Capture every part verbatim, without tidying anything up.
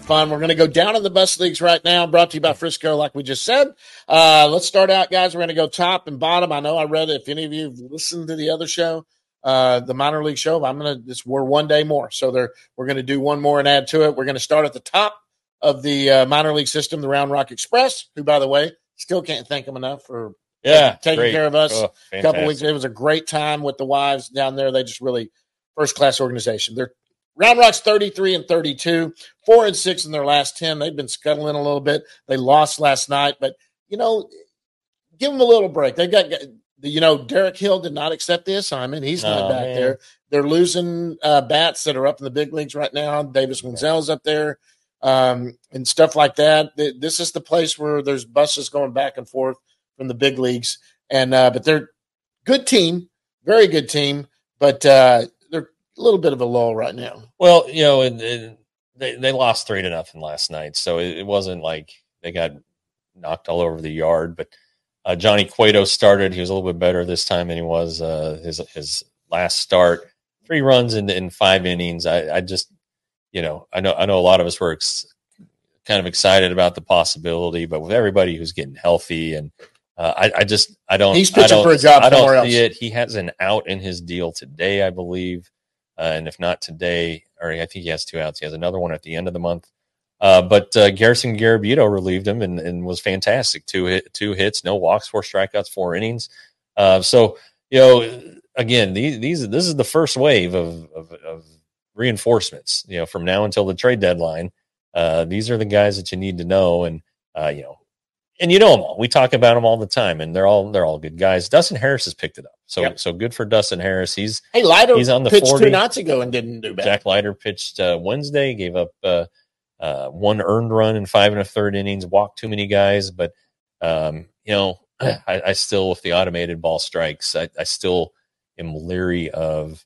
fun. We're going to go down in the bus leagues right now, brought to you by Frisco, like we just said. Uh, let's start out, guys. We're going to go top and bottom. I know I read it. If any of you have listened to the other show, uh, the minor league show, I'm going to, this, we're one day more. So there, we're going to do one more and add to it. We're going to start at the top of the uh, minor league system, the Round Rock Express, who, by the way, still can't thank them enough for yeah, taking, taking care of us oh, a couple weeks. It was a great time with the wives down there. They just really first-class organization. They're Round Rock's thirty-three and thirty-two, four and six in their last ten. They've been scuttling a little bit. They lost last night, but, you know, give them a little break. They got, you know, Derek Hill did not accept the assignment. He's not oh, back man. there. They're losing uh, bats that are up in the big leagues right now. Davis Wenzel's up there um, and stuff like that. This is the place where there's buses going back and forth from the big leagues. And uh, but they're good team, very good team, but uh, they're a little bit of a lull right now. Well, you know, and, and they they lost three to nothing last night, so it, it wasn't like they got knocked all over the yard. But uh, Johnny Cueto started; he was a little bit better this time than he was uh, his his last start. Three runs in in five innings. I, I just, you know, I know I know a lot of us were ex- kind of excited about the possibility, but with everybody who's getting healthy and Uh, I, I just I don't. He's pitching I don't, for a job I don't somewhere see else. it. He has an out in his deal today, I believe, uh, and if not today, or I think he has two outs. He has another one at the end of the month. Uh, but uh, Garrison Garabito relieved him and, and was fantastic. Two hit, two hits, no walks, four strikeouts, four innings. Uh, so you know, again, these these this is the first wave of of, of reinforcements. You know, from now until the trade deadline, uh, these are the guys that you need to know, and uh, you know. And you know them all. We talk about them all the time, and they're all they're all good guys. Dustin Harris has picked it up, so yep. so good for Dustin Harris. He's hey Leiter he's on the pitched forty. two nights ago and didn't do bad. Jack Leiter pitched uh, Wednesday, gave up uh, uh, one earned run in five and a third innings, walked too many guys, but um, you know I, I still, with the automated ball strikes, I, I still am leery of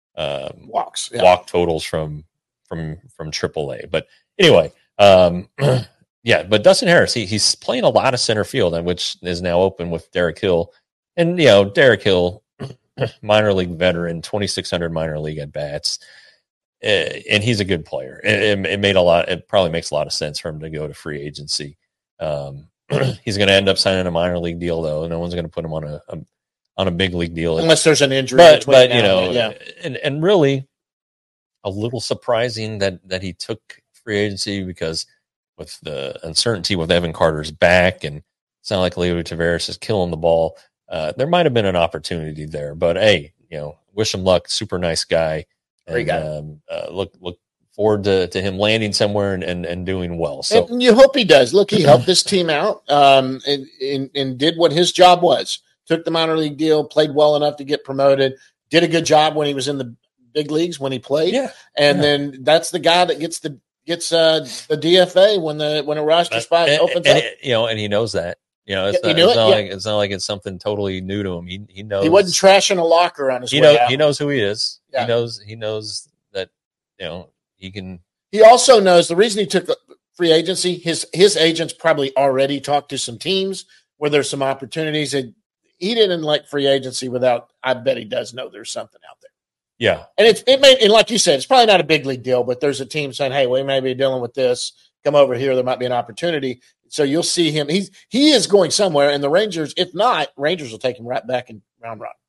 um, walks, yeah. walk totals from from from triple A. But anyway. Um, Yeah, but Dustin Harris, he, he's playing a lot of center field, and which is now open with Derek Hill. And, you know, Derek Hill, minor league veteran, twenty-six hundred minor league at bats, uh, and he's a good player. It, it, it made a lot. It probably makes a lot of sense for him to go to free agency. Um, he's going to end up signing a minor league deal, though. No one's going to put him on a, a on a big league deal unless there's an injury. But, but you know, yeah. and and really, a little surprising that that he took free agency, because with the uncertainty with Evan Carter's back, and it's not like Leo Taveras is killing the ball. Uh, there might have been an opportunity there, but hey, you know, wish him luck. Super nice guy. Great guy. Um, uh, look, look forward to, to him landing somewhere and, and, and doing well. So and you hope he does. Look, he helped this team out um, and, and, and did what his job was. Took the minor league deal, played well enough to get promoted, did a good job when he was in the big leagues when he played. Yeah. And yeah. then that's the guy that gets the, Gets uh, the D F A when the when a roster spot and, opens and up. It, you know, and he knows that. You know, it's, yeah, not, it's, it? not yeah. like, it's not like it's something totally new to him. He he knows he wasn't trashing a locker on his he way knows out. He knows who he is. Yeah. He knows he knows that, you know, he can. He also knows the reason he took free agency. His his agents probably already talked to some teams where there's some opportunities. And he didn't like free agency without. I bet he does know there's something out there. Yeah, and it's it may and like you said, it's probably not a big league deal, but there's a team saying, "Hey, we may be dealing with this. Come over here. There might be an opportunity." So you'll see him. He's he is going somewhere, and the Rangers, if not, Rangers will take him right back in Round Rock.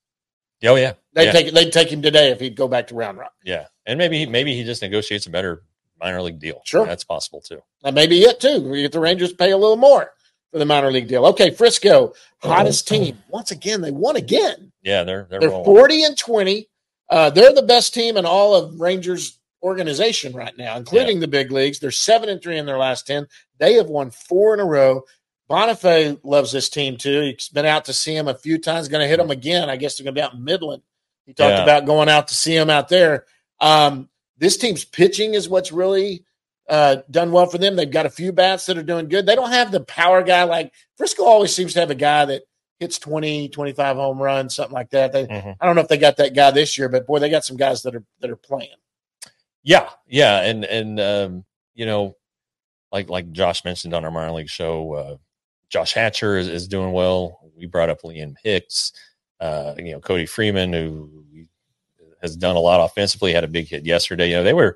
Oh yeah, they yeah. take they'd take him today if he'd go back to Round Rock. Yeah, and maybe he, maybe he just negotiates a better minor league deal. Sure, that's possible too. That may be it too. We get the Rangers to pay a little more for the minor league deal. Okay, Frisco, hottest team once again. They won again. Yeah, they're they're, they're forty and twenty. Uh, they're the best team in all of Rangers organization right now, including yeah. the big leagues. They're seven and three in their last ten. They have won four in a row. Bonifay loves this team too. He's been out to see him a few times. Going to hit them again. I guess they're going to be out in Midland. He talked yeah. about going out to see him out there. Um, this team's pitching is what's really uh, done well for them. They've got a few bats that are doing good. They don't have the power guy. Like Frisco always seems to have a guy that hits twenty, twenty-five home runs, something like that. They, mm-hmm. I don't know if they got that guy this year, but boy, they got some guys that are that are playing. Yeah, yeah, and and um, you know, like like Josh mentioned on our minor league show, uh, Josh Hatcher is, is doing well. We brought up Liam Hicks, uh, you know, Cody Freeman, who has done a lot offensively, had a big hit yesterday. You know, they were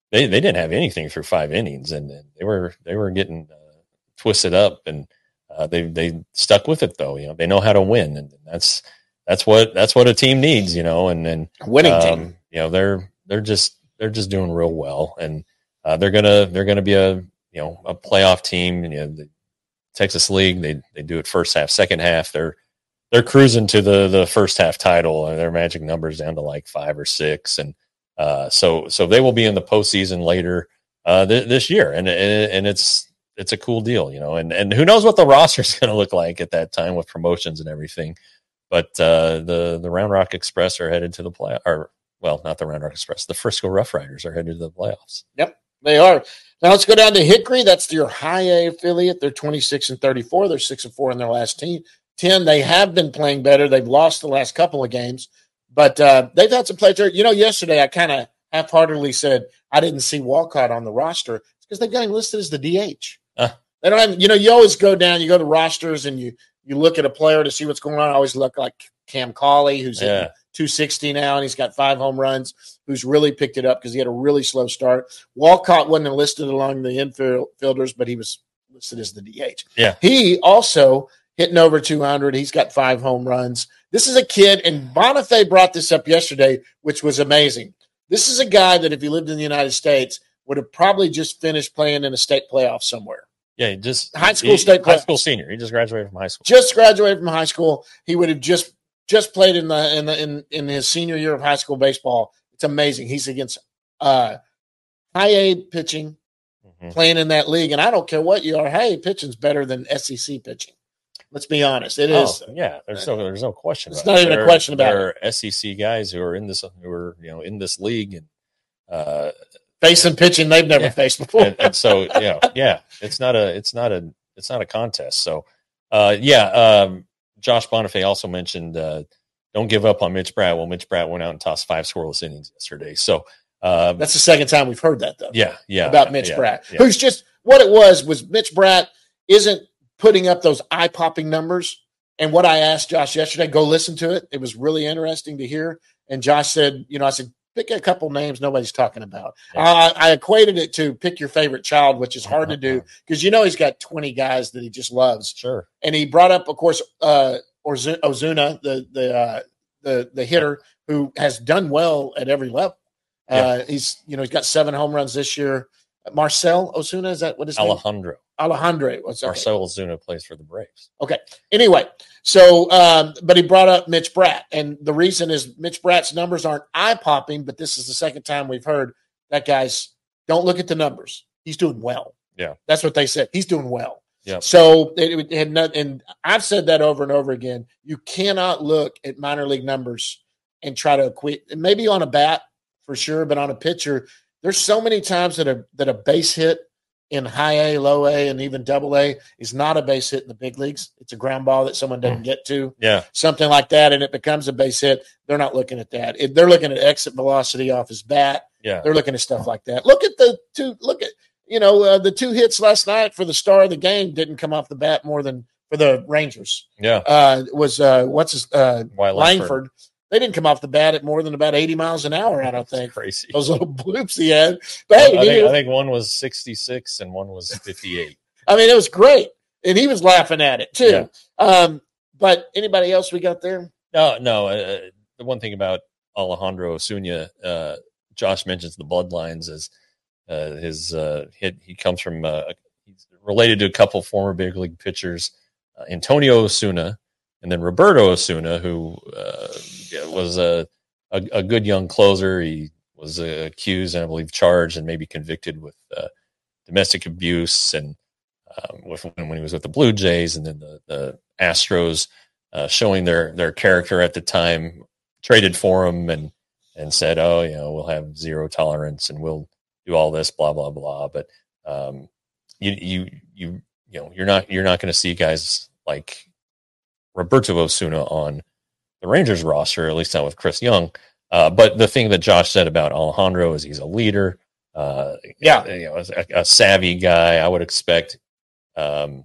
they they didn't have anything through five innings, and, and they were they were getting uh, twisted up, and uh, they they stuck with it though. You know, they know how to win, and that's that's what that's what a team needs. You know, and and winning um, team. You know, they're they're just they're just doing real well, and uh, they're gonna they're gonna be a you know a playoff team. You know, the Texas League, they they do it first half, second half. They're they're cruising to the the first half title, and their magic numbers down to like five or six, and uh, so so they will be in the postseason later uh, th- this year, and, and and it's it's a cool deal, you know, and and who knows what the roster is going to look like at that time with promotions and everything. But uh, the the Round Rock Express are headed to the play, or well, not the Round Rock Express, the Frisco Rough Riders are headed to the playoffs. Yep, they are. Now let's go down to Hickory. That's your high A affiliate. They're twenty-six and thirty-four. They're six and four in their last team. ten. They have been playing better. They've lost the last couple of games, but uh, they've had some players. You know, yesterday I kind of half-heartedly said I didn't see Walcott on the roster. It's because they've got him listed as the D H. Uh. They don't have, you know, you always go down, you go to rosters and you you look at a player to see what's going on. I always look like Cam Cauley, who's yeah. at two sixty now, and he's got five home runs, who's really picked it up because he had a really slow start. Walcott wasn't listed along the infielders, but he was listed as the D H. Yeah. He also hitting over two hundred. He's got five home runs. This is a kid, and Bonifay brought this up yesterday, which was amazing. This is a guy that if he lived in the United States would have probably just finished playing in a state playoff somewhere. Yeah, he just high school he, state playoff. High school senior. He just graduated from high school. Just graduated from high school. He would have just just played in the in the in, in his senior year of high school baseball. It's amazing. He's against uh, high A pitching, mm-hmm. playing in that league, and I don't care what you are. Hey, pitching's better than S E C pitching. Let's be honest. It oh, is. Yeah, there's no there's no question. It's about not it. even there, a question about there it. There are S E C guys who are in this who are you know in this league and uh, facing pitching they've never yeah. faced before. and, and so you know, yeah, it's not a it's not a it's not a contest. So uh, yeah, um, Josh Bonifay also mentioned uh, don't give up on Mitch Bratt. Well, Mitch Bratt went out and tossed five scoreless innings yesterday. So uh, that's the second time we've heard that though. Yeah, yeah, about Mitch yeah, Bratt, yeah. who's just what it was was Mitch Bratt isn't putting up those eye popping numbers. And what I asked Josh yesterday, go listen to it. It was really interesting to hear. And Josh said, you know, I said, pick a couple names nobody's talking about. Yeah. Uh, I equated it to pick your favorite child, which is hard to do because, you know, he's got twenty guys that he just loves. Sure. And he brought up, of course, uh, Ozuna, the the uh, the the hitter who has done well at every level. Uh, yeah. He's, you know, he's got seven home runs this year. Marcell Ozuna, is that what his Alejandro. name? Alejandro. What's okay. Marcell Ozuna plays for the Braves. Okay. Anyway, so um, but he brought up Mitch Bratt, and the reason is Mitch Bratt's numbers aren't eye popping, but this is the second time we've heard that guy's. Don't look at the numbers. He's doing well. Yeah, that's what they said. He's doing well. Yeah. So it, it had not, and I've said that over and over again. You cannot look at minor league numbers and try to equate. Maybe on a bat for sure, but on a pitcher. There's so many times that a that a base hit in high A, low A, and even double A is not a base hit in the big leagues. It's a ground ball that someone doesn't get to. Yeah. Something like that, and it becomes a base hit. They're not looking at that. It, they're looking at exit velocity off his bat. Yeah. They're looking at stuff like that. Look at the two look at you know, uh, the two hits last night for the star of the game didn't come off the bat more than for the Rangers. Yeah. Uh was uh what's his uh Langford. Langford. They didn't come off the bat at more than about eighty miles an hour, I don't think. Crazy. Those little bloops he had. But hey, I, he, think, I think one was sixty-six and one was fifty-eight. I mean, it was great. And he was laughing at it, too. Yeah. Um, but anybody else we got there? No, no. Uh, the one thing about Alejandro Ozuna, uh, Josh mentions the bloodlines as uh, his uh, hit. He comes from, uh, he's related to a couple former big league pitchers, uh, Antonio Ozuna, and then Roberto Ozuna, who uh, was a, a a good young closer. He was uh, accused and I believe charged and maybe convicted with uh, domestic abuse and um, with, when he was with the Blue Jays, and then the, the Astros uh, showing their their character at the time, traded for him and and said, oh, you know, we'll have zero tolerance and we'll do all this, blah blah blah. But um, you you you you know you're not you're not going to see guys like Roberto Ozuna on the Rangers roster, at least not with Chris Young. Uh, but the thing that Josh said about Alejandro is he's a leader. Uh, yeah, you know, a, a savvy guy. I would expect um,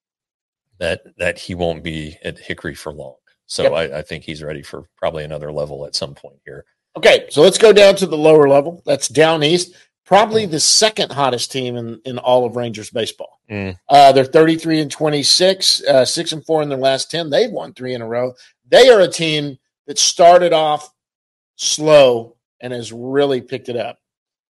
that that he won't be at Hickory for long. So yep. I, I think he's ready for probably another level at some point here. Okay, so let's go down to the lower level. That's down east. probably the second hottest team in, in all of Rangers baseball. Mm. Uh, they're thirty-three and twenty-six, uh, six and four in their last ten. They've won three in a row. They are a team that started off slow and has really picked it up.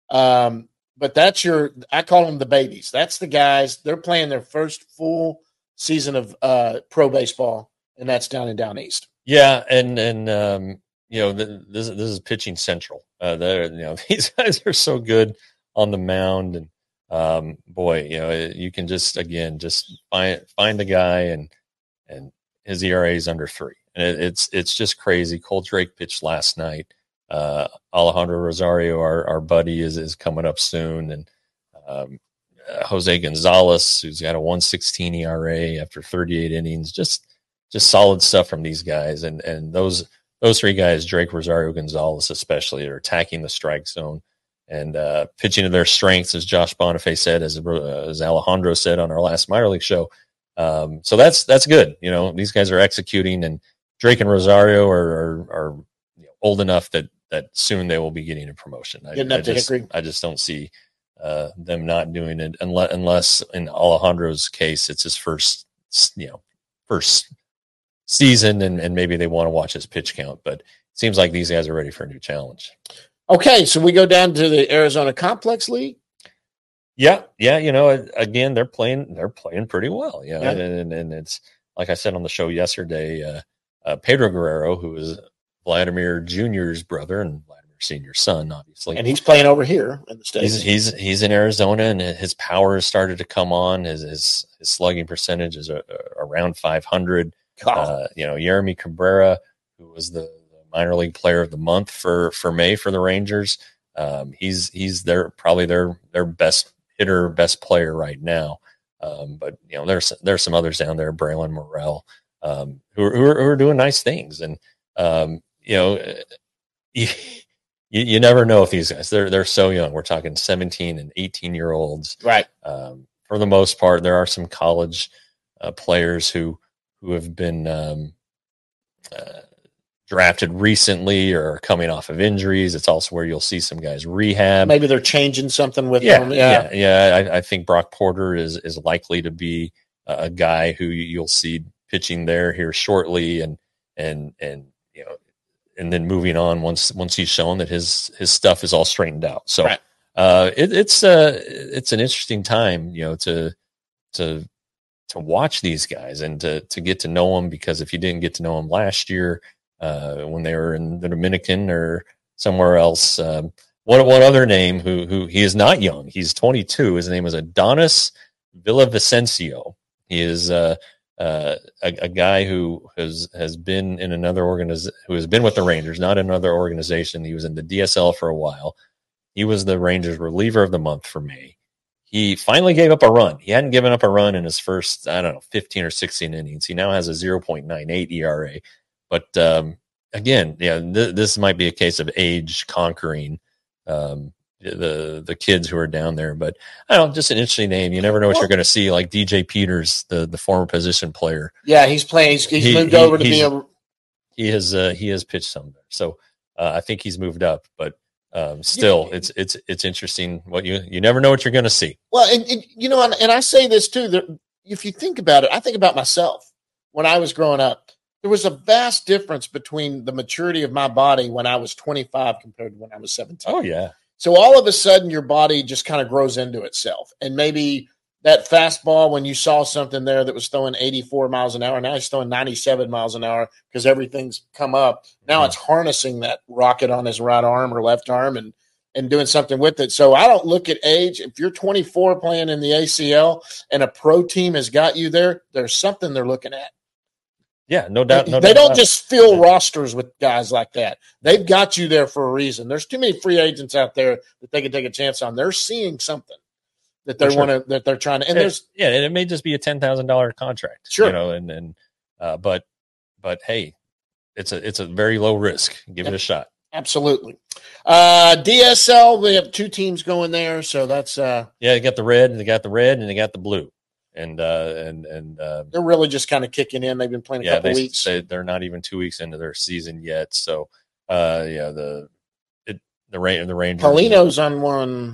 Um, but that's your, I call them the babies. That's the guys. They're playing their first full season of uh, pro baseball, and that's down and down east. Yeah, and and um, you know, th- this this is pitching central. Uh, they're you know these guys are so good on the mound, and um, boy, you know, you can just again just find find a guy, and and his E R A is under three, and it, it's it's just crazy. Cole Drake pitched last night. Uh, Alejandro Rosario, our our buddy, is is coming up soon, and um, uh, Jose Gonzalez, who's got a one sixteen E R A after thirty-eight innings, just just solid stuff from these guys, and and those those three guys, Drake, Rosario, Gonzalez, especially, are attacking the strike zone and uh, pitching to their strengths, as Josh Bonifay said, as uh, as Alejandro said on our last minor league show. Um, so that's that's good. You know, these guys are executing, and Drake and Rosario are are, are you know, old enough that that soon they will be getting a promotion. I, Getting up I to just, Hickory. I just don't see uh, them not doing it unless, unless in Alejandro's case, it's his first, you know, first season, and, and maybe they want to watch his pitch count. But it seems like these guys are ready for a new challenge. Okay, so we go down to the Arizona Complex League. Yeah, yeah, you know, again, they're playing, they're playing pretty well. You know, Yeah. and, and and it's like I said on the show yesterday. Uh, uh, Pedro Guerrero, who is Vladimir Junior's brother and Vladimir Senior's son, obviously, And he's playing over here in the States. he's he's he's in Arizona, and his power has started to come on. His his, his slugging percentage is a, a, around five hundred. Uh, you know, Jeremy Cabrera, who was the, the minor league player of the month for for May for the Rangers, um, he's he's their probably their their best hitter, best player right now. Um, but you know, there's there's some others down there, Braylon Morrell, um, who, are, who are who are doing nice things, and um, you know, you, you never know if these guys they're they're so young. We're talking seventeen and eighteen year olds, right? Um, for the most part, there are some college uh, players who. who have been um, uh, drafted recently or are coming off of injuries. It's also where you'll see some guys rehab. Maybe they're changing something with yeah, them. Yeah, yeah. yeah. I, I think Brock Porter is is likely to be a guy who you'll see pitching there here shortly, and and and you know, and then moving on once once he's shown that his his stuff is all straightened out. So right. uh, it, it's uh it's an interesting time, you know, to to. to watch these guys and to, to get to know them, because if you didn't get to know them last year, uh, when they were in the Dominican or somewhere else, um, one, one other name who, who he is not young, he's twenty-two. His name is Adonis Villavicencio. He is uh, uh, a, a guy who has, has been in another organization, who has been with the Rangers, not another organization. He was in the D S L for a while. He was the Rangers reliever of the month for May. He finally gave up a run. He hadn't given up a run in his first, I don't know, fifteen or sixteen innings. He now has a zero point nine eight E R A. But um, again, yeah, th- this might be a case of age conquering um, the the kids who are down there. But I don't know, just an interesting name. You never know what well, you're going to see. Like D J Peters, the the former position player. Yeah, he's playing. He's, he's he, moved he, over to be a. He has uh, he has pitched some there, so uh, I think he's moved up, but. Um, still, yeah. it's it's it's interesting. What you you never know what you're going to see. Well, and, and you know, and, and I say this too. That if you think about it, I think about myself when I was growing up. There was a vast difference between the maturity of my body when I was twenty-five compared to when I was seventeen. Oh yeah. So all of a sudden, your body just kind of grows into itself, and maybe that fastball when you saw something there that was throwing eighty-four miles an hour, now it's throwing ninety-seven miles an hour because everything's come up. Now mm-hmm. it's harnessing that rocket on his right arm or left arm and and doing something with it. So I don't look at age. If you're twenty-four playing in the A C L and a pro team has got you there, there's something they're looking at. Yeah, no doubt. No they doubt don't just fill yeah. rosters with guys like that. They've got you there for a reason. There's too many free agents out there that they can take a chance on. They're seeing something that they sure. want to, that they're trying to, and it, there's, yeah, and it may just be a ten thousand dollars contract, sure. you know, and, and, uh, but, but hey, it's a, it's a very low risk. Give yep. it a shot. Absolutely. Uh, D S L, we have two teams going there. So that's, uh, yeah, they got the red and they got the red and they got the blue. And, uh, and, and, uh, they're really just kind of kicking in. They've been playing a yeah, couple they, weeks. They, they're not even two weeks into their season yet. So, uh, yeah, the, it, the rain, the Rangers. Paulino's on one.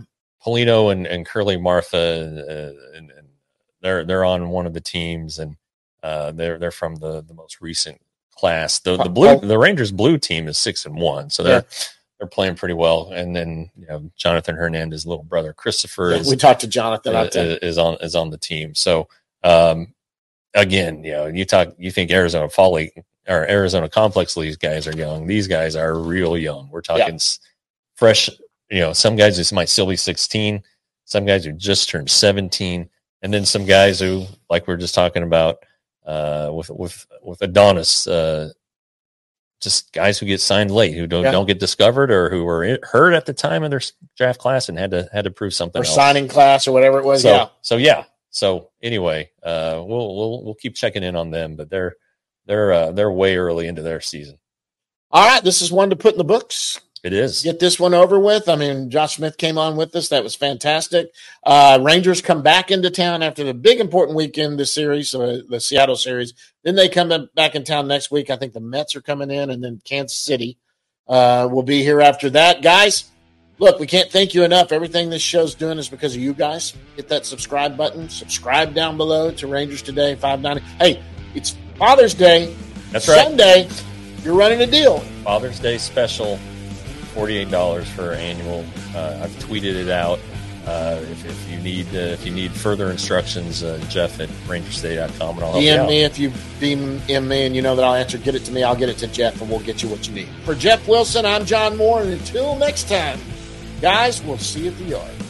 Polino and, and Curly Martha, uh, and, and they're they're on one of the teams, and uh, they're they're from the, the most recent class. The the blue the Rangers blue team is six and one, so they're yeah. they're playing pretty well. And then you know Jonathan Hernandez's little brother Christopher yeah, is we talked to Jonathan is, is on is on the team. So um, again, you know, you talk you think Arizona Fall League or Arizona Complex League guys are young. These guys are real young. We're talking yeah. fresh. You know, some guys just might still be sixteen. Some guys who just turned seventeen, and then some guys who, like we we're just talking about uh, with with with Adonis, uh, just guys who get signed late, who don't yeah. don't get discovered, or who were hurt at the time of their draft class and had to had to prove something. Or else. Signing class or whatever it was. So, yeah. So yeah. So anyway, uh, we'll we'll we'll keep checking in on them, but they're they're uh, they're way early into their season. All right, this is one to put in the books. It is. Get this one over with. I mean, Josh Smith came on with us. That was fantastic. Uh, Rangers come back into town after the big important weekend this series, so the Seattle series. Then they come back in town next week. I think the Mets are coming in, and then Kansas City uh, will be here after that. Guys, look, we can't thank you enough. Everything this show's doing is because of you guys. Hit that subscribe button. Subscribe down below to Rangers Today, five ninety. Hey, it's Father's Day. That's right. Sunday, you're running a deal. Father's Day special. forty-eight dollars for annual. Uh, I've tweeted it out. Uh, if, if you need uh, if you need further instructions, uh, Jeff at Rangers Today dot com, and I'll help D M you out. me if you D M me and you know that I'll answer. Get it to me. I'll get it to Jeff, and we'll get you what you need. For Jeff Wilson, I'm John Moore, and until next time, guys, we'll see you at the yard.